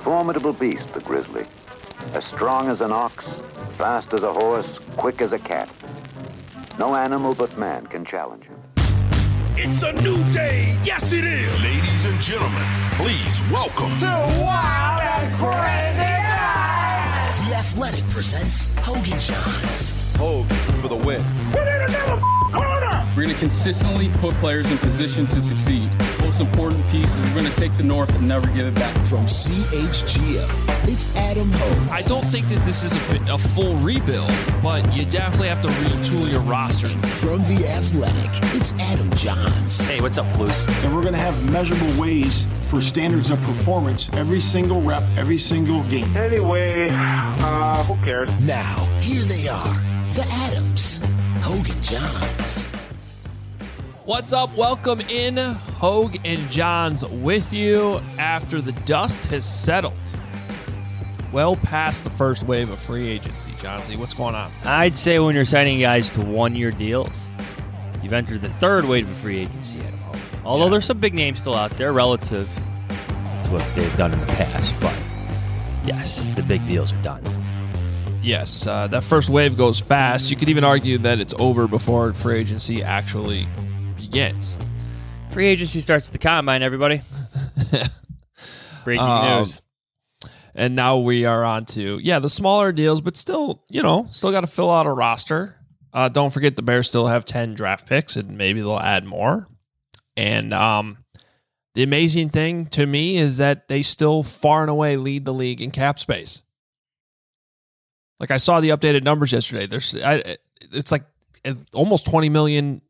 formidable beast, the grizzly. As strong as an ox, fast as a horse, quick as a cat. No animal but man can challenge him. It's a new day. Yes, it is. Ladies and gentlemen, please welcome to Wild and Crazy Night. The Athletic presents Hogan Johns. Hogan for the win. Put in another corner. We're going to consistently put players in position to succeed. Most important piece is we're going to take the North and never give it back. From CHGO, it's Adam Hogue. I don't think that this is a full rebuild, but you definitely have to retool your roster. And from The Athletic, it's Adam Johns. Hey, what's up, Flus? And we're going to have measurable ways for standards of performance every single rep, every single game. Anyway, who cares? Now, here they are, the Adams, Hogan Johns. What's up? Welcome in. Hogue and Johns with you after the dust has settled. Well past the first wave of free agency. Johnsy, what's going on? I'd say when you're signing guys to one-year deals, you've entered the third wave of free agency, Adam Hogue. Although there's some big names still out there relative to what they've done in the past. But yes, the big deals are done. Yes, that first wave goes fast. You could even argue that it's over before free agency actually begins. Free agency starts at the combine, everybody. Breaking news. And now we are on to, the smaller deals, but still, still got to fill out a roster. Don't forget the Bears still have 10 draft picks, and maybe they'll add more. And the amazing thing to me is that they still far and away lead the league in cap space. Like, I saw the updated numbers yesterday. It's like almost 20 million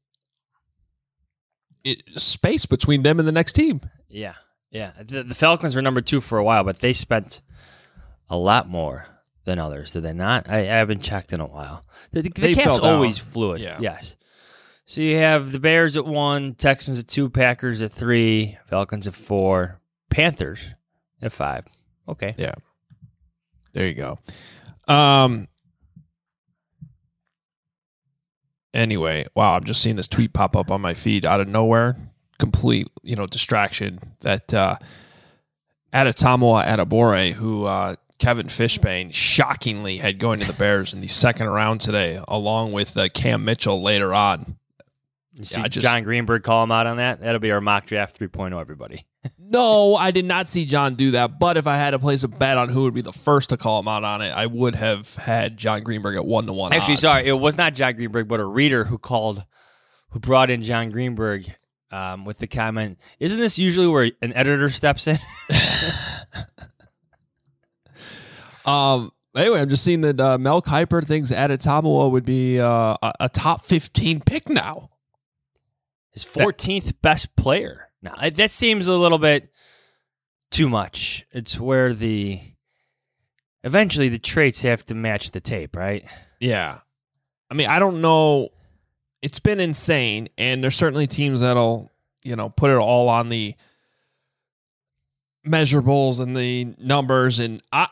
space between them and the next team. Yeah. The Falcons were number 2 for a while, but they spent a lot more than others, did they not? I haven't checked in a while. The cap's always fluid. Yeah. Yes. So you have the Bears at 1, Texans at 2, Packers at 3, Falcons at 4, Panthers at 5. Okay. Yeah. There you go. Anyway, wow, I'm just seeing this tweet pop up on my feed out of nowhere. Complete, distraction that Adetomowa Adebawore, who Kevin Fishbane shockingly had going to the Bears in the second round today, along with Cam Mitchell later on. You see John Greenberg call him out on that? That'll be our mock draft 3.0, everybody. No, I did not see John do that, but if I had to place a bet on who would be the first to call him out on it, I would have had John Greenberg at 1-1 Actually, odds. sorry, it was not John Greenberg, but a reader who brought in John Greenberg with the comment, isn't this usually where an editor steps in? Anyway, I'm just seeing that Mel Kiper thinks Adetomowa would be a top 15 pick now. His 14th best player. Now, that seems a little bit too much. It's where eventually the traits have to match the tape, right? Yeah. I mean, I don't know. It's been insane, and there's certainly teams that'll, put it all on the measurables and the numbers. And I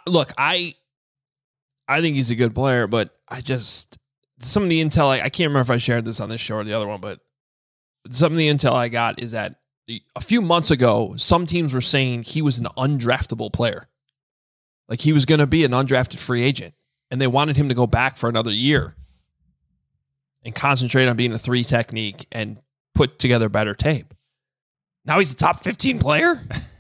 think he's a good player, but some of the intel, I can't remember if I shared this on this show or the other one, but some of the intel I got is that a few months ago, some teams were saying he was an undraftable player. Like he was going to be an undrafted free agent, and they wanted him to go back for another year and concentrate on being a 3 technique and put together better tape. Now he's a top 15 player?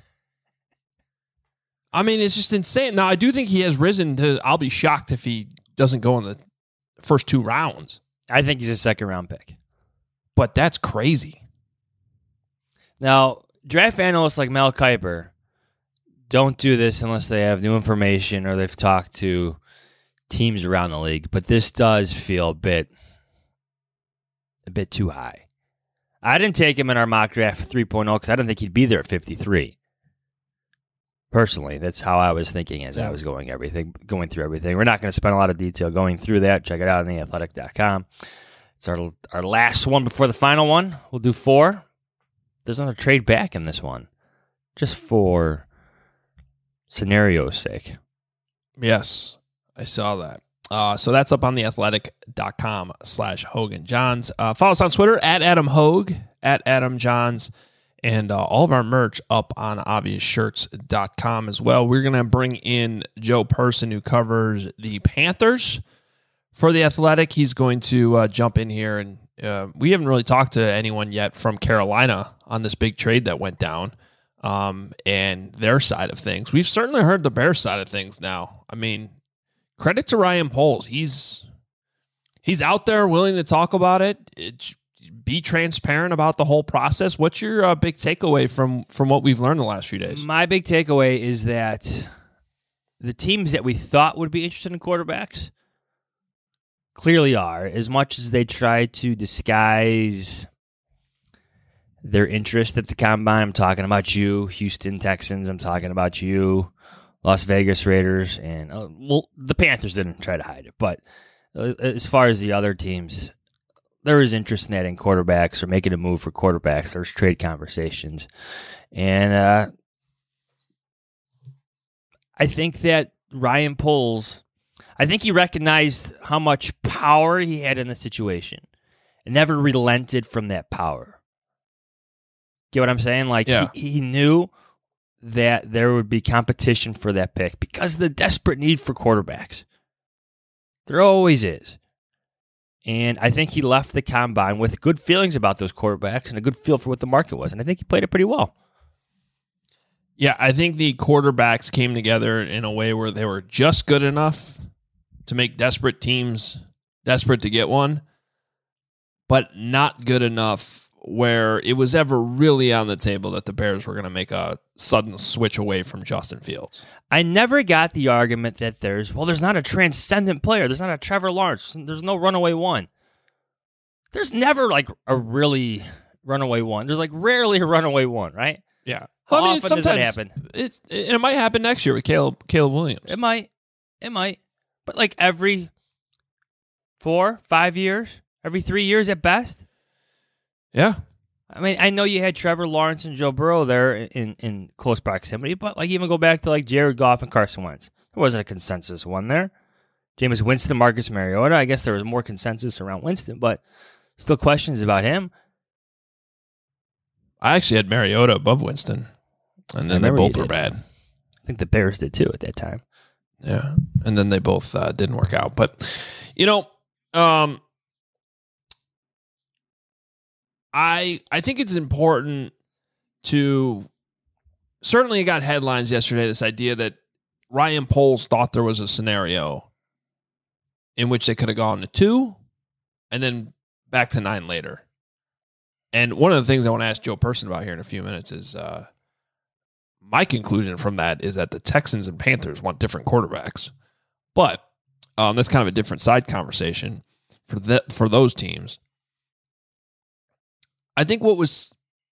I mean, it's just insane. Now, I do think he has risen to, I'll be shocked if he doesn't go in the first 2 rounds. I think he's a second-round pick. But that's crazy. Now, draft analysts like Mel Kiper don't do this unless they have new information or they've talked to teams around the league. But this does feel a bit too high. I didn't take him in our mock draft 3.0 because I didn't think he'd be there at 53. Personally, that's how I was thinking as I was going through everything. We're not going to spend a lot of detail going through that. Check it out on theathletic.com. It's our last one before the final one. We'll do 4. There's another trade back in this one, just for scenario's sake. Yes, I saw that. So that's up on theathletic.com/Hogan Johns. Follow us on Twitter at Adam Hogue, at Adam Johns, and all of our merch up on obviousshirts.com as well. We're going to bring in Joe Person, who covers the Panthers for The Athletic. He's going to jump in here, and we haven't really talked to anyone yet from Carolina on this big trade that went down and their side of things. We've certainly heard the Bears side of things now. I mean, credit to Ryan Poles. He's out there willing to talk about it. Be transparent about the whole process. What's your big takeaway from what we've learned the last few days? My big takeaway is that the teams that we thought would be interested in quarterbacks clearly are, as much as they try to disguise their interest at the combine. I'm talking about you, Houston Texans. I'm talking about you, Las Vegas Raiders. And, the Panthers didn't try to hide it. But as far as the other teams, there is interest in that in quarterbacks or making a move for quarterbacks. There's trade conversations. And I think that Ryan Poles, I think he recognized how much power he had in the situation and never relented from that power. Get what I'm saying? Like, yeah. he knew that there would be competition for that pick because of the desperate need for quarterbacks. There always is. And I think he left the combine with good feelings about those quarterbacks and a good feel for what the market was. And I think he played it pretty well. Yeah, I think the quarterbacks came together in a way where they were just good enough to make desperate teams desperate to get one, but not good enough where it was ever really on the table that the Bears were going to make a sudden switch away from Justin Fields. I never got the argument that there's not a transcendent player. There's not a Trevor Lawrence. There's no runaway one. There's never like a really runaway one. There's like rarely a runaway one, right? Yeah. How often does that happen? It might happen next year with Caleb Williams. It might. But like every 4, 5 years, every 3 years at best. Yeah. I mean, I know you had Trevor Lawrence and Joe Burrow there in close proximity, but like even go back to like Jared Goff and Carson Wentz. There wasn't a consensus one there. Jameis Winston, Marcus Mariota. I guess there was more consensus around Winston, but still questions about him. I actually had Mariota above Winston, and then they both were bad. I think the Bears did too at that time. Yeah, and then they both didn't work out. But, I think it's important to, certainly it got headlines yesterday, this idea that Ryan Poles thought there was a scenario in which they could have gone to 2 and then back to 9 later. And one of the things I want to ask Joe Person about here in a few minutes is my conclusion from that is that the Texans and Panthers want different quarterbacks. But that's kind of a different side conversation for those teams. I think what was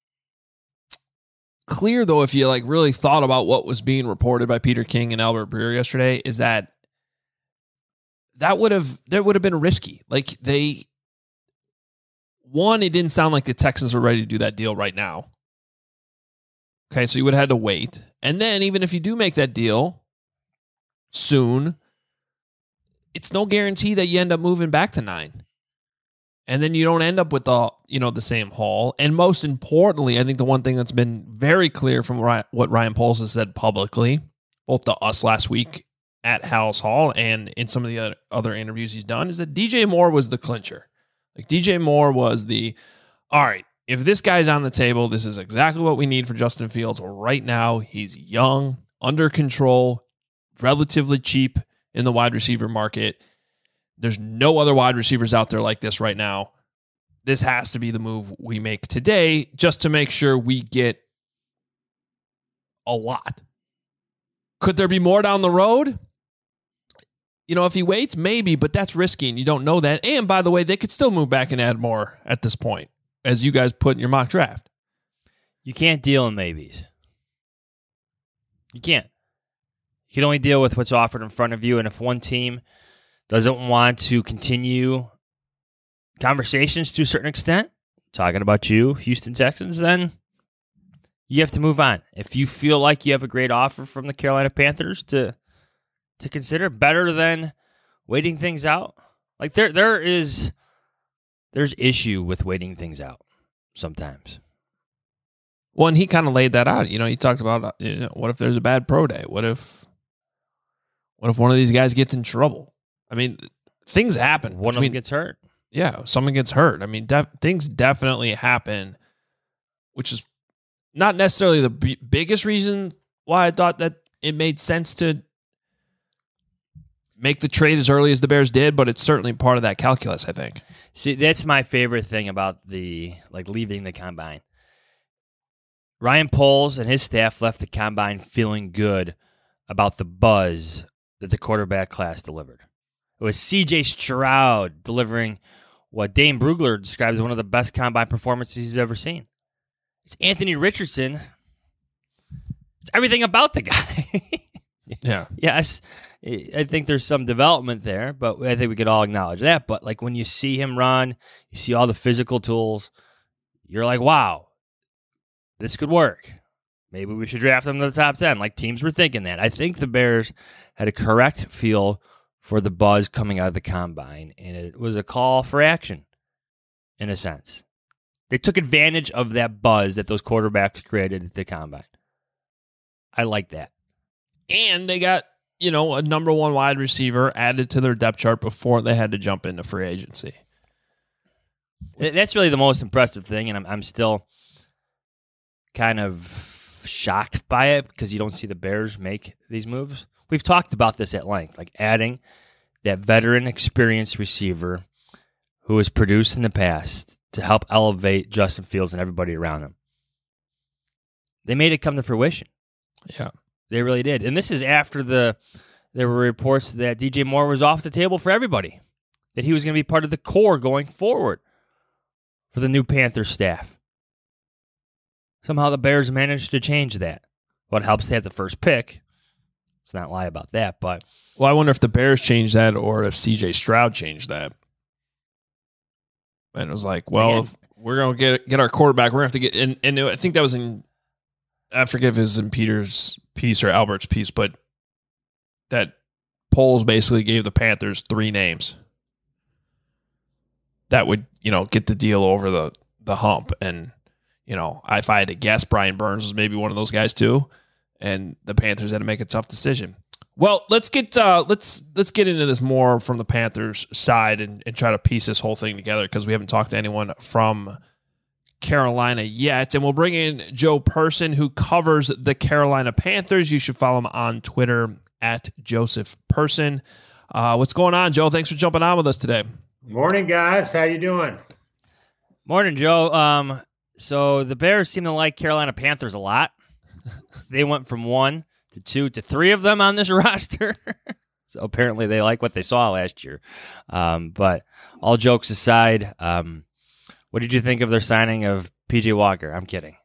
clear, though, if you like really thought about what was being reported by Peter King and Albert Breer yesterday, is that would have been risky. Like it didn't sound like the Texans were ready to do that deal right now. Okay, so you would have had to wait. And then even if you do make that deal soon, it's no guarantee that you end up moving back to 9. And then you don't end up with the same haul. And most importantly, I think the one thing that's been very clear from what Ryan Poles has said publicly, both to us last week at Hal's Hall and in some of the other interviews he's done, is that DJ Moore was the clincher. Like DJ Moore was all right, if this guy's on the table, this is exactly what we need for Justin Fields right now. He's young, under control, relatively cheap in the wide receiver market. There's no other wide receivers out there like this right now. This has to be the move we make today just to make sure we get a lot. Could there be more down the road? If he waits, maybe, but that's risky and you don't know that. And by the way, they could still move back and add more at this point, as you guys put in your mock draft. You can't deal in maybes. You can't. You can only deal with what's offered in front of you. And if one team doesn't want to continue conversations to a certain extent, talking about you, Houston Texans, then you have to move on. If you feel like you have a great offer from the Carolina Panthers to consider, better than waiting things out. Like there's issue with waiting things out sometimes. Well, and he kind of laid that out. He talked about, what if there's a bad pro day? What if one of these guys gets in trouble? I mean, things happen. One of them gets hurt. Yeah, someone gets hurt. I mean, things definitely happen, which is not necessarily the biggest reason why I thought that it made sense to make the trade as early as the Bears did, but it's certainly part of that calculus, I think. See, that's my favorite thing about leaving the combine. Ryan Poles and his staff left the combine feeling good about the buzz that the quarterback class delivered. It was C.J. Stroud delivering what Dane Brugler describes as one of the best combine performances he's ever seen. It's Anthony Richardson. It's everything about the guy. Yeah. Yes, I think there's some development there, but I think we could all acknowledge that. But when you see him run, you see all the physical tools, you're like, wow, this could work. Maybe we should draft him to the top 10. Teams were thinking that. I think the Bears had a correct feel for the buzz coming out of the combine, and it was a call for action, in a sense. They took advantage of that buzz that those quarterbacks created at the combine. I like that. And they got, a number one wide receiver added to their depth chart before they had to jump into free agency. That's really the most impressive thing, and I'm still kind of shocked by it because you don't see the Bears make these moves. We've talked about this at length, adding that veteran, experienced receiver who has produced in the past to help elevate Justin Fields and everybody around him. They made it come to fruition. Yeah. They really did. And this is after there were reports that DJ Moore was off the table for everybody, that he was going to be part of the core going forward for the new Panthers staff. Somehow the Bears managed to change that. Well, it helps to have the first pick. Let's not lie about that. But I wonder if the Bears changed that or if C.J. Stroud changed that. And it was like, if we're going to get our quarterback, we're going to have to get – and I think that was in – I forget if it was in Peter's piece or Albert's piece, but that Poles basically gave the Panthers 3 names that would, get the deal over the hump. And, if I had to guess, Brian Burns was maybe one of those guys too. And the Panthers had to make a tough decision. Well, let's get into this more from the Panthers side and try to piece this whole thing together because we haven't talked to anyone from Carolina yet. And we'll bring in Joe Person, who covers the Carolina Panthers. You should follow him on Twitter at Joseph Person. What's going on, Joe? Thanks for jumping on with us today. Morning, guys. How you doing? Morning, Joe. So the Bears seem to like Carolina Panthers a lot. They went from 1 to 2 to 3 of them on this roster. So apparently they like what they saw last year. But all jokes aside, what did you think of their signing of P.J. Walker? I'm kidding.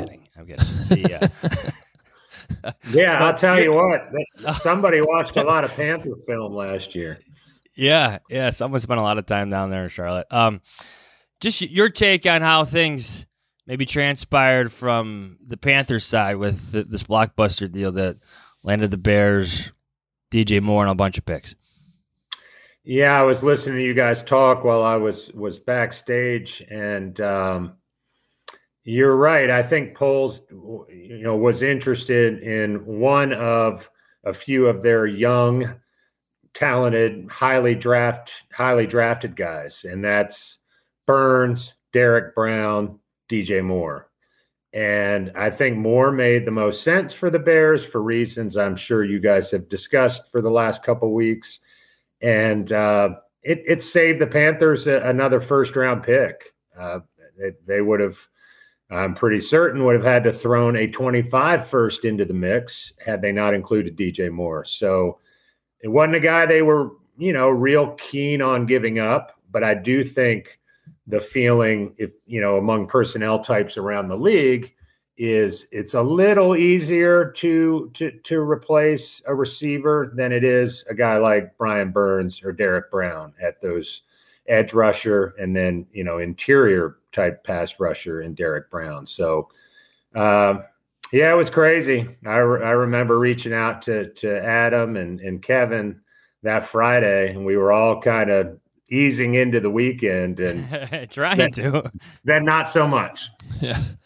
Yeah, I'll tell you what. Somebody watched a lot of Panther film last year. Yeah. Someone spent a lot of time down there in Charlotte. Just your take on how things maybe transpired from the Panthers side with this blockbuster deal that landed the Bears, DJ Moore, and a bunch of picks. Yeah, I was listening to you guys talk while I was backstage, and you're right. I think Poles, was interested in one of a few of their young, talented, highly drafted guys, and that's Burns, Derek Brown, DJ Moore. And I think Moore made the most sense for the Bears for reasons I'm sure you guys have discussed for the last couple of weeks. And it saved the Panthers another first-round pick. They would have, I'm pretty certain, would have had to thrown a 25 first into the mix had they not included DJ Moore. So it wasn't a guy they were, real keen on giving up. But I do think the feeling, among personnel types around the league, is it's a little easier to replace a receiver than it is a guy like Brian Burns or Derek Brown at those edge rusher and then, interior type pass rusher in Derek Brown. So, it was crazy. I remember reaching out to Adam and Kevin that Friday, and we were all kind of easing into the weekend and trying to. Then not so much. Yeah.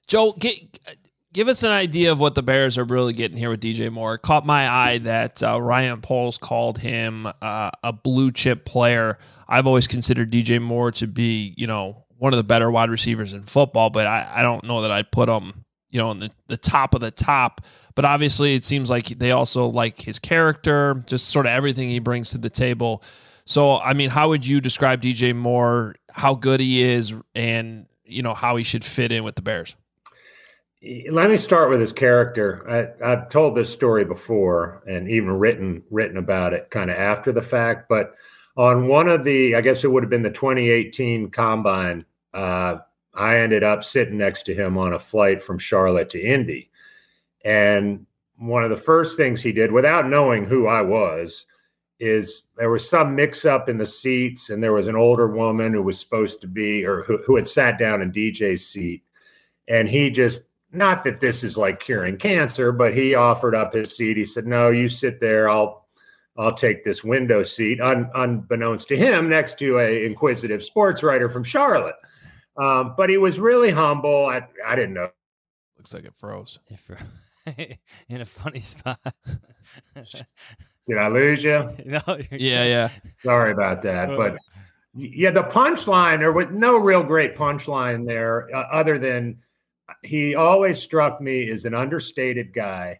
Joe, give us an idea of what the Bears are really getting here with DJ Moore. It caught my eye that Ryan Poles called him a blue chip player. I've always considered DJ Moore to be, one of the better wide receivers in football, but I don't know that I'd put him, in the top of the top. But obviously it seems like they also like his character, just sort of everything he brings to the table. So, I mean, how would you describe DJ Moore, how good he is, and, how he should fit in with the Bears? Let me start with his character. I've told this story before and even written about it kind of after the fact. But on one of I guess it would have been the 2018 Combine, I ended up sitting next to him on a flight from Charlotte to Indy. And one of the first things he did, without knowing who I was, is there was some mix-up in the seats, and there was an older woman who was supposed to be, or who had sat down in DJ's seat. And he just, not that this is like curing cancer, but he offered up his seat. He said, "No, you sit there. I'll take this window seat," unbeknownst to him, next to a inquisitive sports writer from Charlotte. But he was really humble. I didn't know. Looks like it froze. In a funny spot. Did I lose you? No. Yeah. Sorry about that. But yeah, the punchline, there was no real great punchline there, other than he always struck me as an understated guy.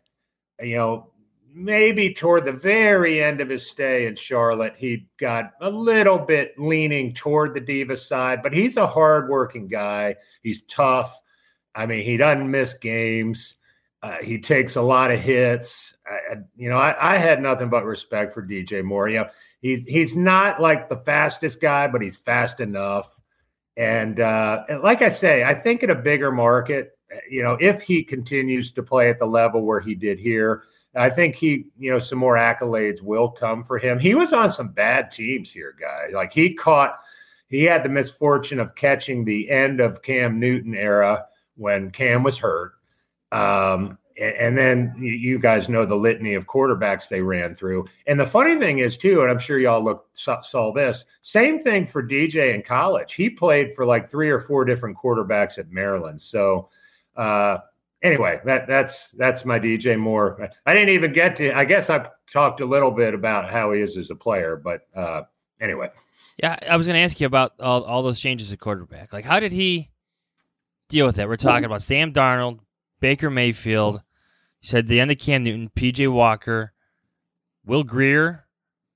Maybe toward the very end of his stay in Charlotte, he got a little bit leaning toward the diva side, but he's a hardworking guy. He's tough. I mean, he doesn't miss games. He takes a lot of hits. I had nothing but respect for DJ Moore. He's not like the fastest guy, but he's fast enough. And like I say, I think in a bigger market, if he continues to play at the level where he did here, I think some more accolades will come for him. He was on some bad teams here, guys. Like he had the misfortune of catching the end of Cam Newton era when Cam was hurt. And then you guys know the litany of quarterbacks they ran through. And the funny thing is, too, and I'm sure y'all saw this, same thing for DJ in college. He played for like 3 or 4 different quarterbacks at Maryland. So anyway, that's my DJ Moore. I didn't even get to, I guess I talked a little bit about how he is as a player, but anyway. Yeah, I was going to ask you about all those changes at quarterback. Like, how did he deal with that? We're talking about Sam Darnold, Baker Mayfield. You said the end of Cam Newton, P.J. Walker, Will Grier.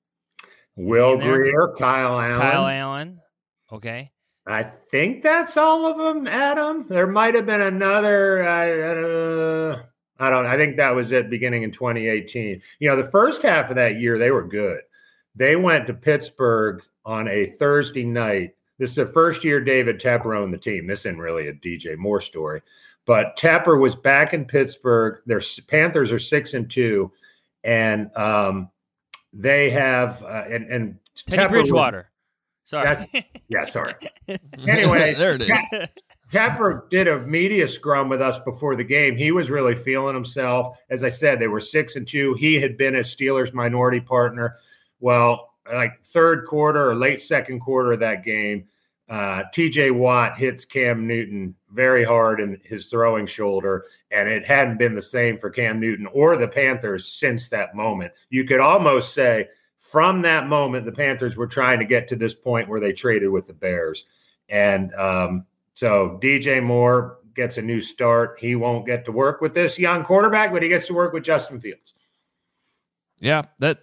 Kyle Allen. Okay. I think that's all of them, Adam. There might have been another. I don't know. I think that was it beginning in 2018. The first half of that year, they were good. They went to Pittsburgh on a Thursday night. This is the first year David Tepper owned the team. This isn't really a DJ Moore story. But Tepper was back in Pittsburgh. Their Panthers are 6-2, and they have and Teddy Tepper Bridgewater. Sorry. Sorry. Anyway, there it is. Tepper did a media scrum with us before the game. He was really feeling himself. As I said, they were 6-2. He had been a Steelers minority partner. Well, like third quarter or late second quarter of that game, TJ Watt hits Cam Newton very hard in his throwing shoulder, and it hadn't been the same for Cam Newton or the Panthers since that moment. You could almost say from that moment, the Panthers were trying to get to this point where they traded with the Bears. And so DJ Moore gets a new start. He won't get to work with this young quarterback, but he gets to work with Justin Fields. Yeah,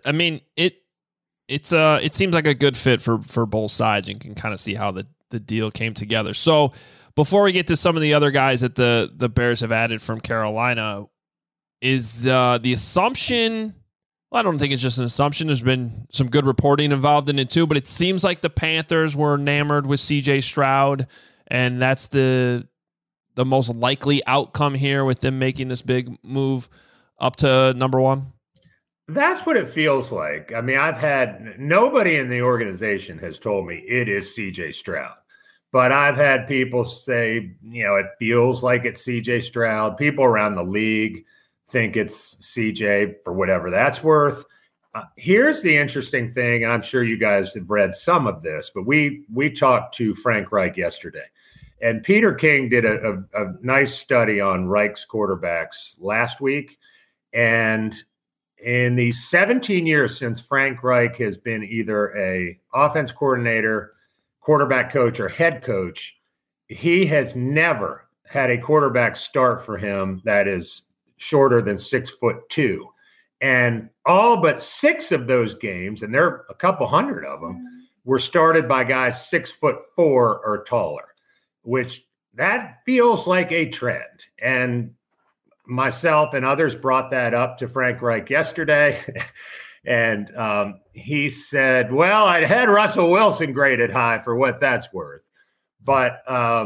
it seems like a good fit for both sides, and can kind of see how the deal came together. So before we get to some of the other guys that the Bears have added from Carolina, is the assumption, well, I don't think it's just an assumption. There's been some good reporting involved in it too, but it seems like the Panthers were enamored with CJ Stroud, and that's the most likely outcome here with them making this big move up to number 1. That's what it feels like. I mean, I've had nobody in the organization has told me it is CJ Stroud, but I've had people say, it feels like it's CJ Stroud. People around the league think it's CJ for whatever that's worth. Here's the interesting thing, and I'm sure you guys have read some of this, but we talked to Frank Reich yesterday, And Peter King did a nice study on Reich's quarterbacks last week. And in the 17 years since Frank Reich has been either a offense coordinator, quarterback coach, or head coach, he has never had a quarterback start for him that is shorter than 6'2". And all but 6 of those games, and there are a couple hundred of them, were started by guys 6'4" or taller, which that feels like a trend. And myself and others brought that up to Frank Reich yesterday. And he said, well, I had Russell Wilson graded high for what that's worth. But,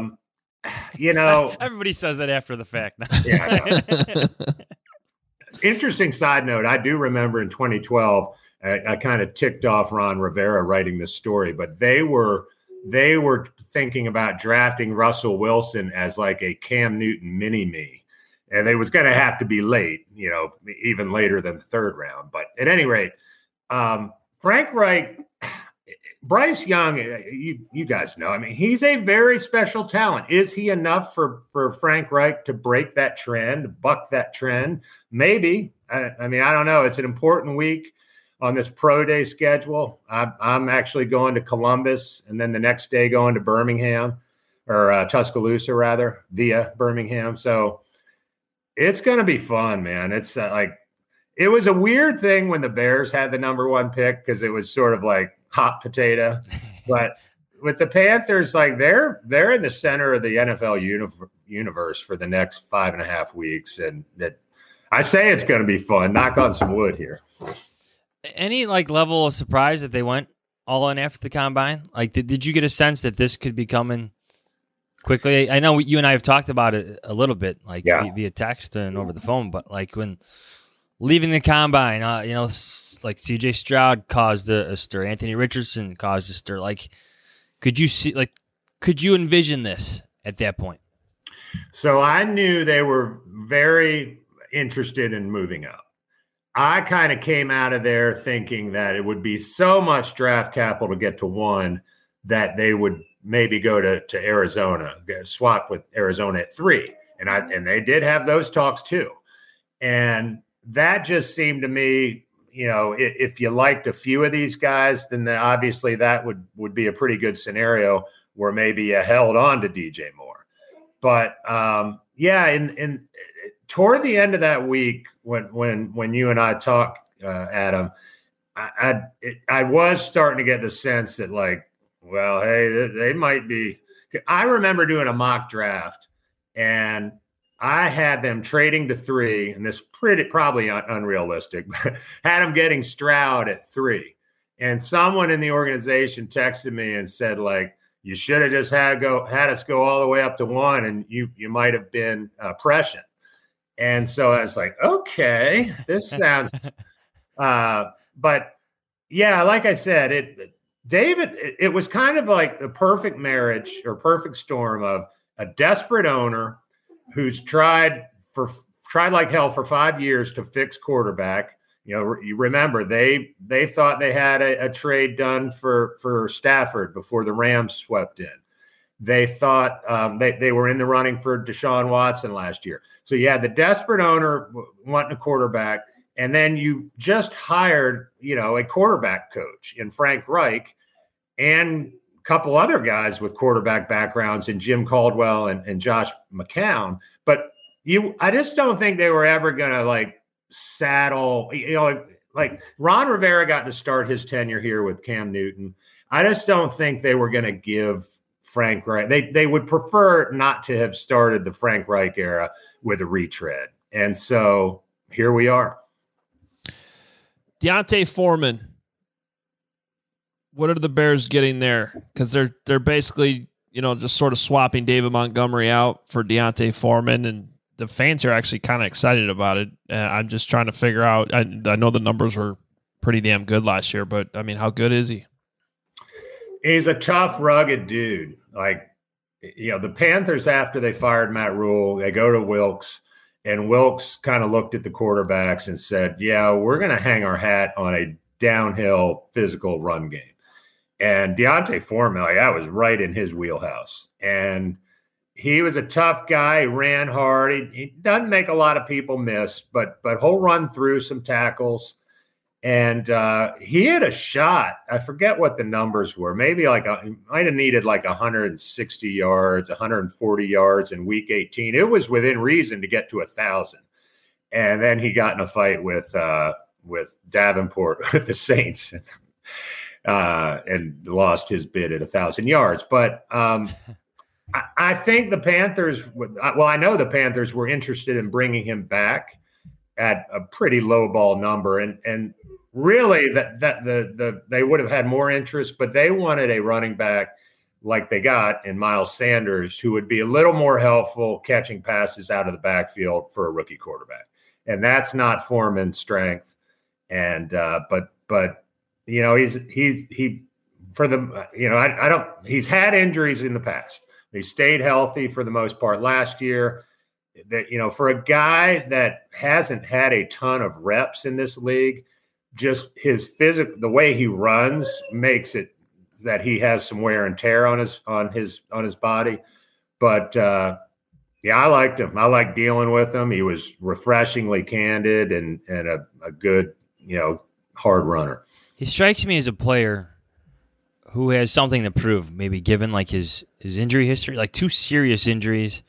everybody says that after the fact. Yeah. Interesting side note. I do remember in 2012, I kind of ticked off Ron Rivera writing this story, but they were thinking about drafting Russell Wilson as like a Cam Newton mini-me. And they was going to have to be late, even later than the third round. But at any rate, Frank Reich, Bryce Young, you guys know, I mean, he's a very special talent. Is he enough for Frank Reich to break that trend, buck that trend? Maybe. I mean, I don't know. It's an important week on this pro day schedule. I'm actually going to Columbus and then the next day going to Birmingham or Tuscaloosa rather via Birmingham. So it's going to be fun, man. It's it was a weird thing when the Bears had the number 1 pick because it was sort of like hot potato, but with the Panthers, like they're in the center of the NFL universe for the next 5.5 weeks. And I say it's going to be fun. Knock on some wood here. Any level of surprise that they went all in after the combine? Did you get a sense that this could be coming quickly? I know you and I have talked about it a little bit, via text and over the phone, but when leaving the combine, CJ Stroud caused a stir, Anthony Richardson caused a stir. Could you envision this at that point? So I knew they were very interested in moving up. I kind of came out of there thinking that it would be so much draft capital to get to 1 that they would maybe go to Arizona, swap with Arizona at 3. And they did have those talks too. And that just seemed to me, if you liked a few of these guys, then obviously that would be a pretty good scenario where maybe you held on to DJ Moore. But in toward the end of that week, when you and I talked, Adam, I was starting to get the sense that hey, they might be. I remember doing a mock draft, and I had them trading to 3, and this probably unrealistic, but had them getting Stroud at 3. And someone in the organization texted me and said, you should have just had us go all the way up to 1, and you might have been prescient. And so I was like, okay, this sounds. But yeah, like I said, it was kind of like the perfect marriage or perfect storm of a desperate owner who's tried like hell for 5 years to fix quarterback. You remember they thought they had a trade done for Stafford before the Rams swept in. They thought they were in the running for Deshaun Watson last year. So you had the desperate owner wanting a quarterback, and then you just hired, a quarterback coach in Frank Reich and a couple other guys with quarterback backgrounds in Jim Caldwell and Josh McCown. But I just don't think they were ever going to saddle, Ron Rivera got to start his tenure here with Cam Newton. I just don't think they were going to give Frank Reich. They would prefer not to have started the Frank Reich era with a retread. And so here we are. D'Onta Foreman. What are the Bears getting there? Because they're basically, just sort of swapping David Montgomery out for D'Onta Foreman, and the fans are actually kind of excited about it. I'm just trying to figure out. I know the numbers were pretty damn good last year, but I mean, how good is he? He's a tough, rugged dude. The Panthers, after they fired Matt Rule, they go to Wilkes, and Wilkes kind of looked at the quarterbacks and said, yeah, we're going to hang our hat on a downhill physical run game. And D'Onta Foreman, that was right in his wheelhouse. And he was a tough guy. He ran hard. He doesn't make a lot of people miss, but he'll run through some tackles. And he had a shot. I forget what the numbers were. Maybe he might have needed like 160 yards, 140 yards in week 18. It was within reason to get to 1,000. And then he got in a fight with Davenport with the Saints and lost his bid at 1,000 yards. But I think the Panthers I know the Panthers were interested in bringing him back at a pretty low ball number. And really they would have had more interest, but they wanted a running back like they got in Miles Sanders, who would be a little more helpful catching passes out of the backfield for a rookie quarterback. And that's not Foreman's strength. And, but he's had injuries in the past. He stayed healthy for the most part last year. That, for a guy that hasn't had a ton of reps in this league, just his physical, the way he runs makes it that he has some wear and tear on his body. But I liked him. I liked dealing with him. He was refreshingly candid and a good, hard runner. He strikes me as a player who has something to prove, maybe given like his injury history, like 2 serious injuries.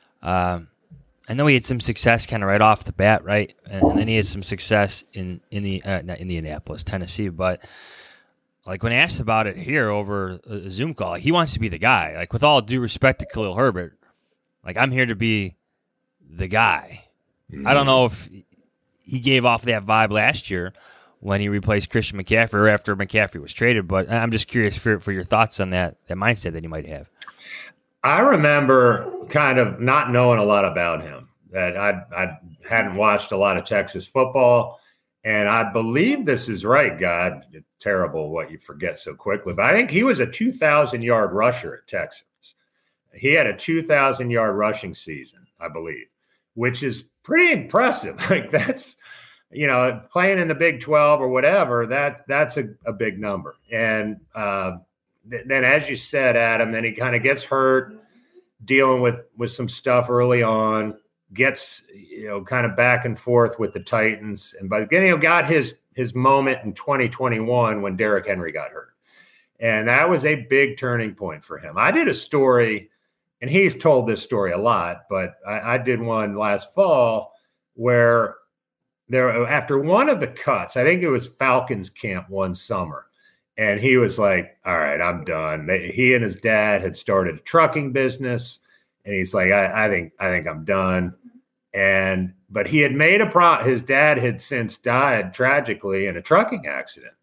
I know he had some success kind of right off the bat, right? And then he had some success in not Indianapolis, Tennessee. But like when asked about it here over a Zoom call, he wants to be the guy. Like with all due respect to Khalil Herbert, like I'm here to be the guy. Mm-hmm. I don't know if he gave off that vibe last year when he replaced Christian McCaffrey or after McCaffrey was traded. But I'm just curious for your thoughts on that mindset that you might have. I remember kind of not knowing a lot about him, that I hadn't watched a lot of Texas football. And I believe this is right, God, it's terrible what you forget so quickly. But I think he was a 2,000-yard rusher at Texas. He had a 2,000-yard rushing season, I believe, which is pretty impressive. Like that's, playing in the Big 12 or whatever, that's a big number. And then, as you said, Adam, then he kind of gets hurt, dealing with some stuff early on, gets kind of back and forth with the Titans, and by the got his moment in 2021 when Derrick Henry got hurt, and that was a big turning point for him. I did a story, and he's told this story a lot, but I did one last fall where after one of the cuts, I think it was Falcons camp one summer. And he was like, all right, I'm done. He and his dad had started a trucking business. And he's like, I think I'm done. But he had made his dad had since died tragically in a trucking accident.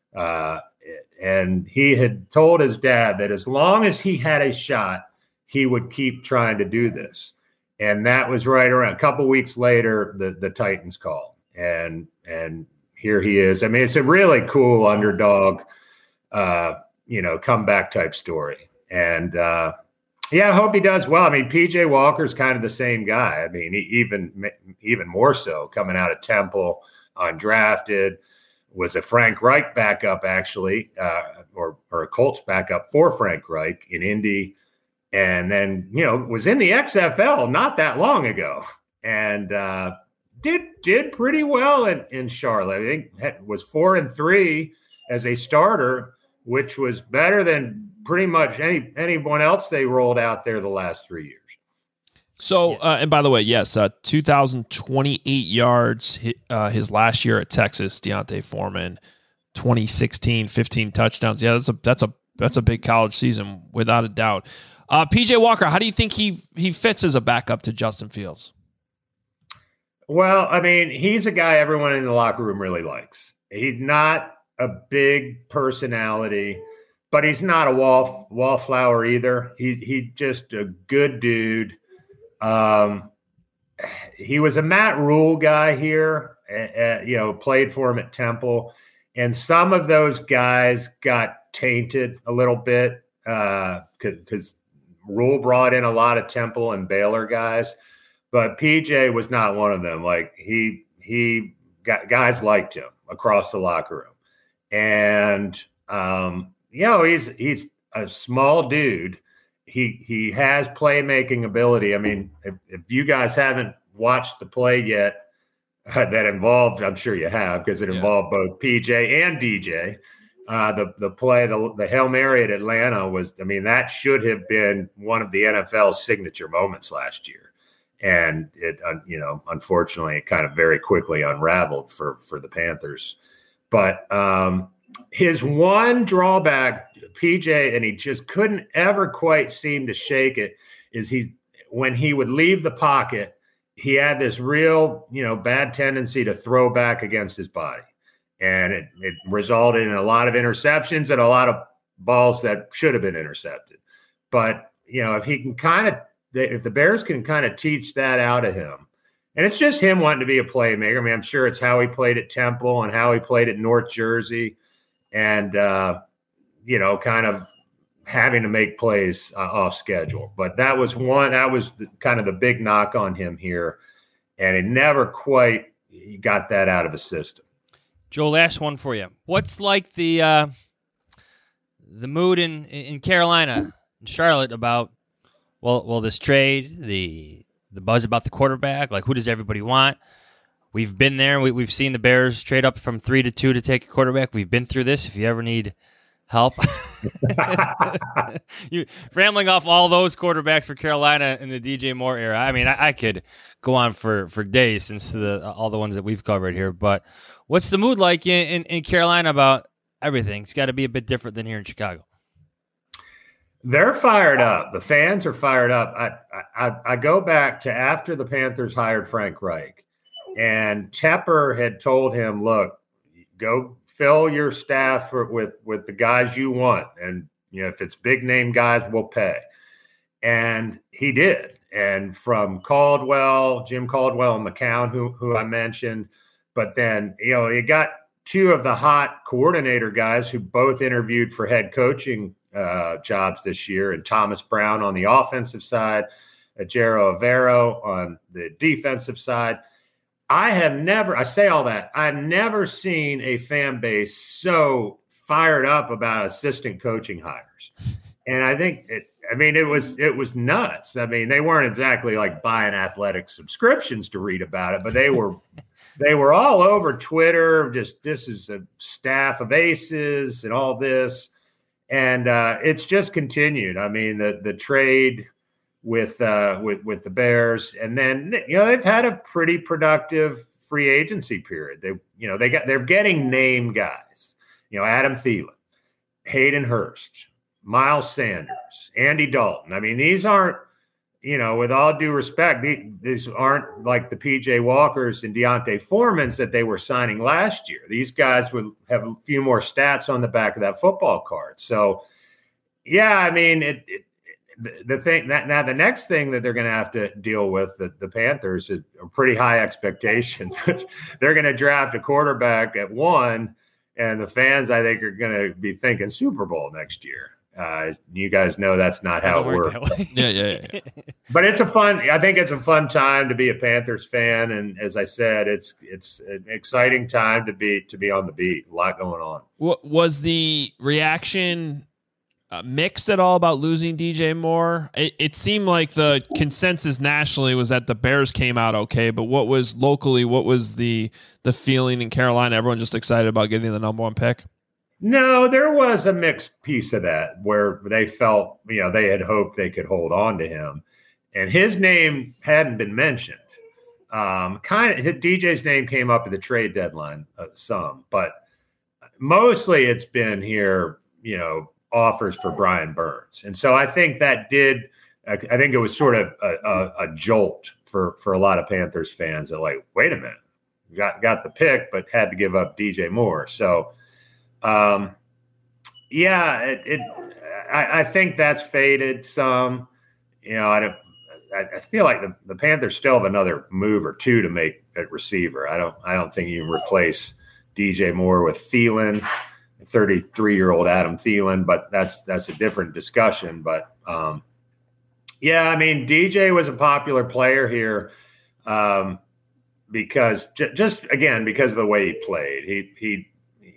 And he had told his dad that as long as he had a shot, he would keep trying to do this. And that was right around a couple weeks later, the Titans called. And here he is. I mean, it's a really cool underdog comeback type story. And I hope he does well. I mean, PJ Walker's kind of the same guy. I mean, even more so coming out of Temple, undrafted, was a Frank Reich backup actually, or a Colts backup for Frank Reich in Indy. And then, was in the XFL not that long ago and did pretty well in Charlotte. I think was 4-3 as a starter, which was better than pretty much anyone else they rolled out there the last 3 years. So, and by the way, yes, 2,028 yards his last year at Texas. D'Onta Foreman, 2016, 15 touchdowns. Yeah, that's a big college season without a doubt. PJ Walker, how do you think he fits as a backup to Justin Fields? Well, I mean, he's a guy everyone in the locker room really likes. He's not a big personality, but he's not a wallflower either. He just a good dude. He was a Matt Rule guy here, played for him at Temple. And some of those guys got tainted a little bit because Rule brought in a lot of Temple and Baylor guys. But PJ was not one of them. Like he got guys liked him across the locker room. And, he's a small dude. he has playmaking ability. I mean, if you guys haven't watched the play yet that involved, I'm sure you have, because it involved both PJ and DJ. The play, the Hail Mary at Atlanta was, I mean, that should have been one of the NFL's signature moments last year. And it, unfortunately, it kind of very quickly unraveled for the Panthers. But his one drawback, PJ, and he just couldn't ever quite seem to shake it, is when he would leave the pocket, he had this real, bad tendency to throw back against his body. And it resulted in a lot of interceptions and a lot of balls that should have been intercepted. But, if he can if the Bears can kind of teach that out of him, and it's just him wanting to be a playmaker. I mean, I'm sure it's how he played at Temple and how he played at North Jersey and, kind of having to make plays off schedule. But that was kind of the big knock on him here. And it never quite got that out of his system. Joe, last one for you. What's like the mood in Carolina and Charlotte about this trade, the buzz about the quarterback? Like, who does everybody want? We've been there. We've seen the Bears trade up from 3 to 2 to take a quarterback. We've been through this. If you ever need help, you rambling off all those quarterbacks for Carolina in the DJ Moore era. I mean, I could go on for days since all the ones that we've covered here, but. What's the mood like in Carolina about everything? It's got to be a bit different than here in Chicago. They're fired up. The fans are fired up. I go back to after the Panthers hired Frank Reich, and Tepper had told him, look, go fill your staff with the guys you want. And, if it's big name guys, we'll pay. And he did. And from Caldwell, Jim Caldwell and McCown, who I mentioned, but then, you got two of the hot coordinator guys who both interviewed for head coaching jobs this year, and Thomas Brown on the offensive side, Jero Avero on the defensive side. I've never seen a fan base so fired up about assistant coaching hires. And I think it was nuts. I mean, they weren't exactly like buying athletic subscriptions to read about it, but they were all over Twitter. Just, this is a staff of aces and all this. And it's just continued. I mean, the trade with the Bears, and then, they've had a pretty productive free agency period. They're getting name guys, Adam Thielen, Hayden Hurst, Miles Sanders, Andy Dalton. I mean, these aren't, with all due respect, these aren't like the PJ Walkers and Deontay Foremans that they were signing last year. These guys would have a few more stats on the back of that football card. So, yeah, I mean, the next thing that they're going to have to deal with, the Panthers, is a pretty high expectation. They're going to draft a quarterback at 1, and the fans, I think, are going to be thinking Super Bowl next year. You guys know that's not how it works. Yeah. But I think it's a fun time to be a Panthers fan, and as I said, it's an exciting time to be on the beat. A lot going on. What was the reaction mixed at all about losing DJ Moore? It seemed like the consensus nationally was that the Bears came out okay, but what was locally? What was the feeling in Carolina? Everyone just excited about getting the number 1 pick? No, there was a mixed piece of that where they felt, they had hoped they could hold on to him, and his name hadn't been mentioned. DJ's name came up at the trade deadline some, but mostly it's been here, offers for Brian Burns. And so I think I think it was sort of a jolt for a lot of Panthers fans that, like, wait a minute, got the pick, but had to give up DJ Moore. So, I think that's faded some. I feel like the Panthers still have another move or two to make at receiver. I don't think you can replace DJ Moore with Thielen, 33-year-old Adam Thielen, but that's a different discussion. But I mean, DJ was a popular player here because because of the way he played.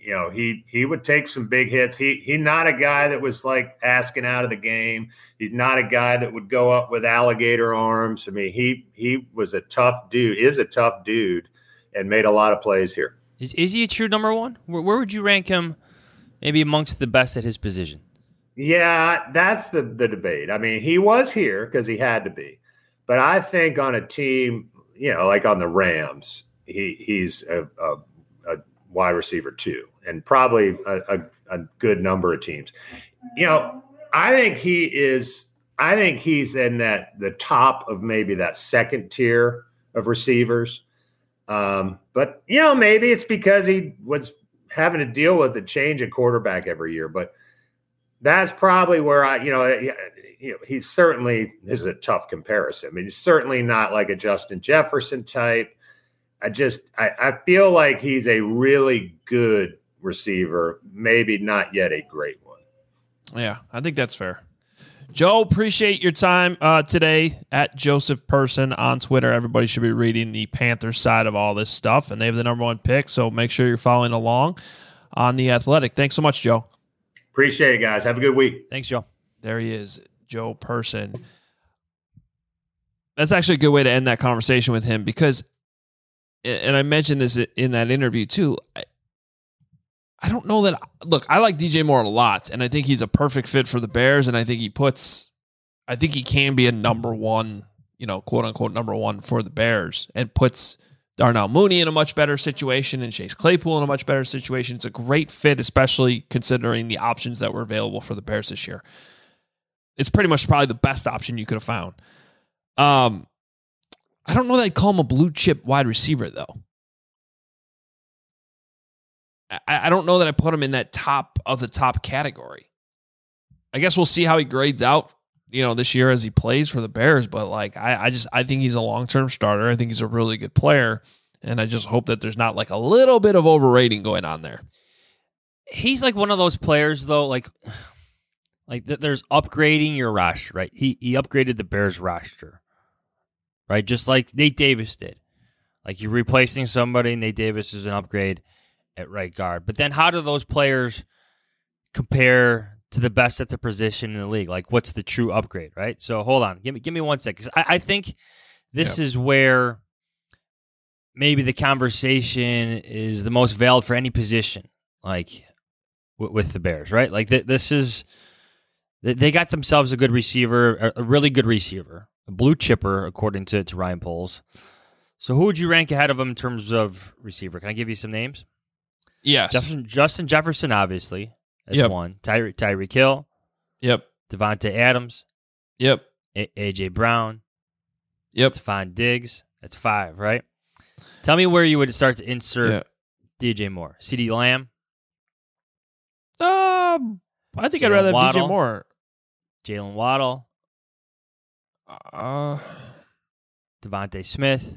he would take some big hits. He's not a guy that was like asking out of the game. He's not a guy that would go up with alligator arms. I mean, he was a tough dude, is a tough dude, and made a lot of plays here. Is he a true number one? Where would you rank him maybe amongst the best at his position? Yeah, that's the debate. I mean, he was here because he had to be. But I think on a team, like on the Rams, he's a wide receiver 2, and probably a good number of teams. I think he's in the top of maybe that second tier of receivers. But maybe it's because he was having to deal with a change in quarterback every year. But that's probably where he's certainly, this is a tough comparison. I mean, he's certainly not like a Justin Jefferson type. I feel like he's a really good receiver, maybe not yet a great one. Yeah, I think that's fair. Joe, appreciate your time today at Joseph Person on Twitter. Everybody should be reading the Panthers side of all this stuff, and they have the number 1 pick, so make sure you're following along on The Athletic. Thanks so much, Joe. Appreciate it, guys. Have a good week. Thanks, Joe. There he is, Joe Person. That's actually a good way to end that conversation with him because, and I mentioned this in that interview too, I don't know that. Look, I like DJ Moore a lot, and I think he's a perfect fit for the Bears, and I think he can be a number 1, quote unquote number 1 for the Bears, and puts Darnell Mooney in a much better situation and Chase Claypool in a much better situation. It's a great fit, especially considering the options that were available for the Bears this year. It's pretty much probably the best option you could have found. I don't know that I'd call him a blue chip wide receiver, though. I don't know that I put him in that top of the top category. I guess we'll see how he grades out, this year as he plays for the Bears. But I think he's a long-term starter. I think he's a really good player. And I just hope that there's not like a little bit of overrating going on there. He's like one of those players though, like there's upgrading your roster, right? He upgraded the Bears roster, right? Just like Nate Davis did. Like you're replacing somebody, Nate Davis is an upgrade at right guard. But then how do those players compare to the best at the position in the league? Like what's the true upgrade, right? So hold on. Give me 1 second. 'Cause I think this is where maybe the conversation is the most valid for any position, like with the Bears, right? Like this is, they got themselves a good receiver, a really good receiver, a blue chipper, according to Ryan Poles. So who would you rank ahead of him in terms of receiver? Can I give you some names? Yes. Justin Jefferson, obviously, as 1. Tyreek Hill. Yep. Devontae Adams. Yep. A.J. Brown. Yep. Stephon Diggs. That's 5, right? Tell me where you would start to insert DJ Moore. CeeDee Lamb. I think I'd rather have DJ Moore. Jalen Waddle. Devontae Smith.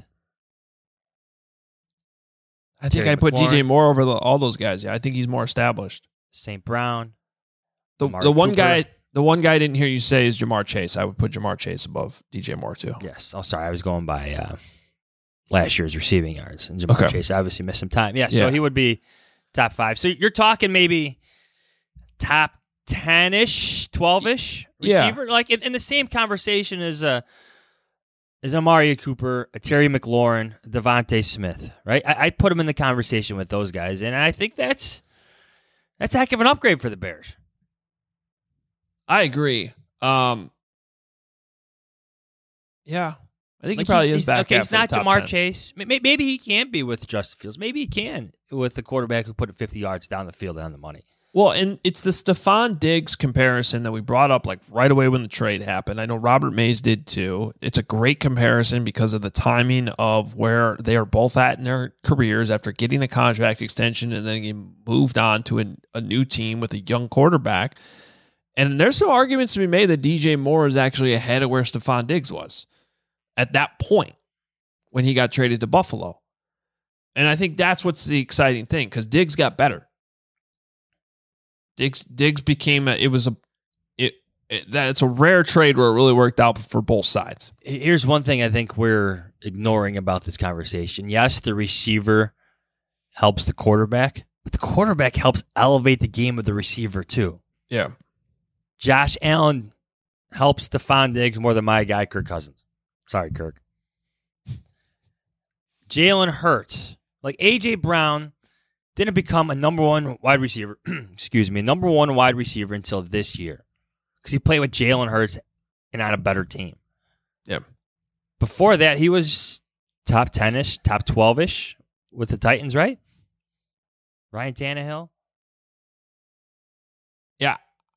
I think I put DJ Moore over all those guys. Yeah, I think he's more established. St. Brown. The one guy I didn't hear you say is Jamar Chase. I would put Jamar Chase above DJ Moore too. Yes. Oh, sorry. I was going by last year's receiving yards, and Jamar Chase obviously missed some time. Yeah. So he would be top 5. So you're talking maybe top 10-ish, 12-ish receiver, like in the same conversation as Amari Cooper, a Terry McLaurin, Devontae Smith, right? I put him in the conversation with those guys, and I think that's a heck of an upgrade for the Bears. I agree. Yeah, I think he probably is back. Okay, it's not Jamar 10. Chase. Maybe he can be with Justin Fields. Maybe he can with the quarterback who put it 50 yards down the field on the money. Well, and it's the Stephon Diggs comparison that we brought up like right away when the trade happened. I know Robert Mays did too. It's a great comparison because of the timing of where they are both at in their careers after getting a contract extension and then he moved on to a new team with a young quarterback. And there's some arguments to be made that DJ Moore is actually ahead of where Stephon Diggs was at that point when he got traded to Buffalo. And I think that's what's the exciting thing because Diggs got better. Diggs became it's a rare trade where it really worked out for both sides. Here's one thing I think we're ignoring about this conversation. Yes, the receiver helps the quarterback, But the quarterback helps elevate the game of the receiver, too. Yeah. Josh Allen helps Stephon Diggs more than my guy, Kirk Cousins. Sorry, Kirk. Jalen Hurts. Like, A.J. Brown didn't become a number one wide receiver, number one wide receiver until this year. Because he played with Jalen Hurts and on a better team. Yeah. Before that, he was top 10-ish, top 12-ish with the Titans, right? Ryan Tannehill. Yeah.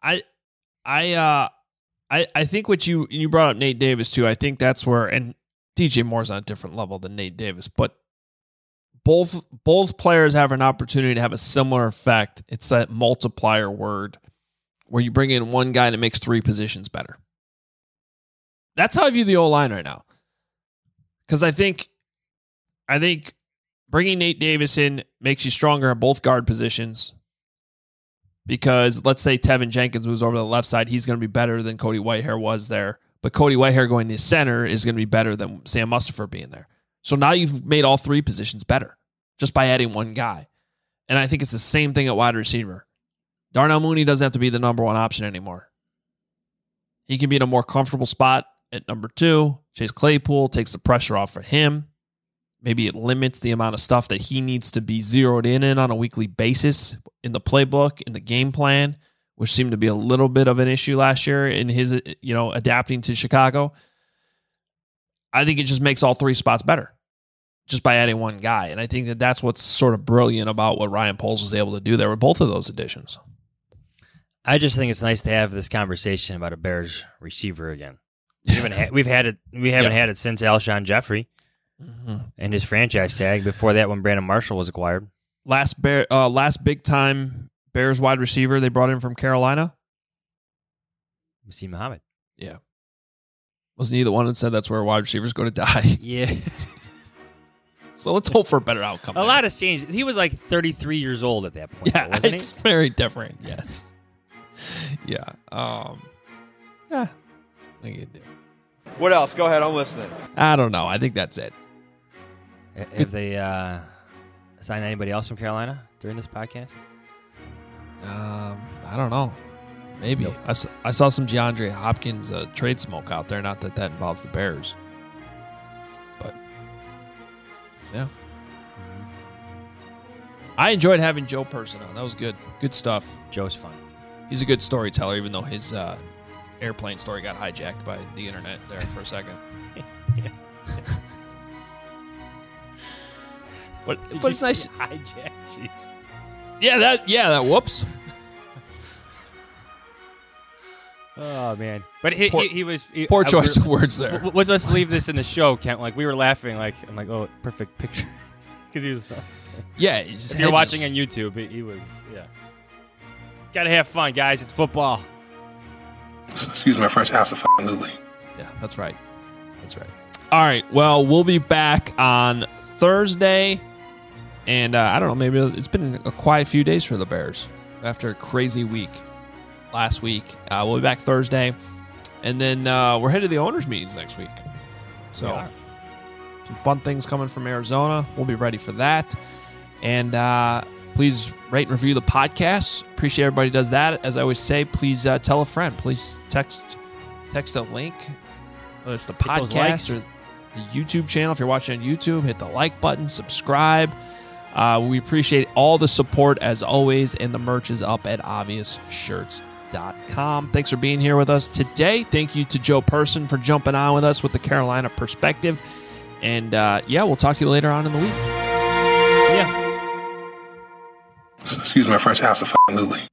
I think what you brought up Nate Davis too. I think that's where, and DJ Moore's on a different level than Nate Davis, but both players have an opportunity to have a similar effect. It's that multiplier word where you bring in one guy and it makes three positions better. That's how I view the O-line right now. Because I think bringing Nate Davis in makes you stronger at both guard positions. Because let's say Tevin Jenkins moves over to the left side, he's going to be better than Cody Whitehair was there. But Cody Whitehair going to center is going to be better than Sam Mustipher being there. So now you've made all three positions better just by adding one guy. And I think it's the same thing at wide receiver. Darnell Mooney doesn't have to be the number one option anymore. He can be in a more comfortable spot at number 2. Chase Claypool takes the pressure off for him. Maybe it limits the amount of stuff that he needs to be zeroed in on a weekly basis in the playbook, in the game plan, which seemed to be a little bit of an issue last year in his, adapting to Chicago. I think it just makes all three spots better just by adding one guy. And I think that that's what's sort of brilliant about what Ryan Poles was able to do there with both of those additions. I just think it's nice to have this conversation about a Bears receiver again. We haven't had it since Alshon Jeffrey and his franchise tag. Before that, when Brandon Marshall was acquired. Last big time Bears wide receiver they brought in from Carolina, Muhsin Muhammad. Yeah, wasn't he the one that said that's where wide receivers go to die? Yeah. So let's hope for a better outcome. A lot has changed. He was like 33 years old at that point. Yeah, wasn't it's very different. Yes. Yeah. What are you gonna do? What else? Go ahead. I'm listening. I don't know. I think that's it. Have they signed anybody else from Carolina during this podcast? I don't know. Maybe. Nope. I saw some DeAndre Hopkins trade smoke out there. Not that involves the Bears. But, yeah. I enjoyed having Joe Person on. That was good. Good stuff. Joe's fun. He's a good storyteller, even though his airplane story got hijacked by the internet there for a second. But it's nice. Hijack, jeez. Yeah, that whoops. Oh man, but he was poor choice of words there. Let's leave this in the show, Kent. Like we were laughing, I'm like, oh, perfect picture, because he was. Yeah, if you're watching on YouTube, he was. Yeah, gotta have fun, guys. It's football. Excuse my French, absolutely. Yeah, that's right. That's right. All right. Well, we'll be back on Thursday. And I don't know, maybe it's been a quiet few days for the Bears after a crazy week last week. We'll be back Thursday. And then we're headed to the owners' meetings next week. So some fun things coming from Arizona. We'll be ready for that. And please rate and review the podcast. Appreciate everybody who does that. As I always say, please tell a friend. Please text a link, whether it's the podcast or the YouTube channel. If you're watching on YouTube, hit the like button, subscribe. We appreciate all the support as always, and the merch is up at obviousshirts.com. Thanks for being here with us today. Thank you to Joe Person for jumping on with us with the Carolina perspective. And we'll talk to you later on in the week. See ya. Excuse my French, absolutely.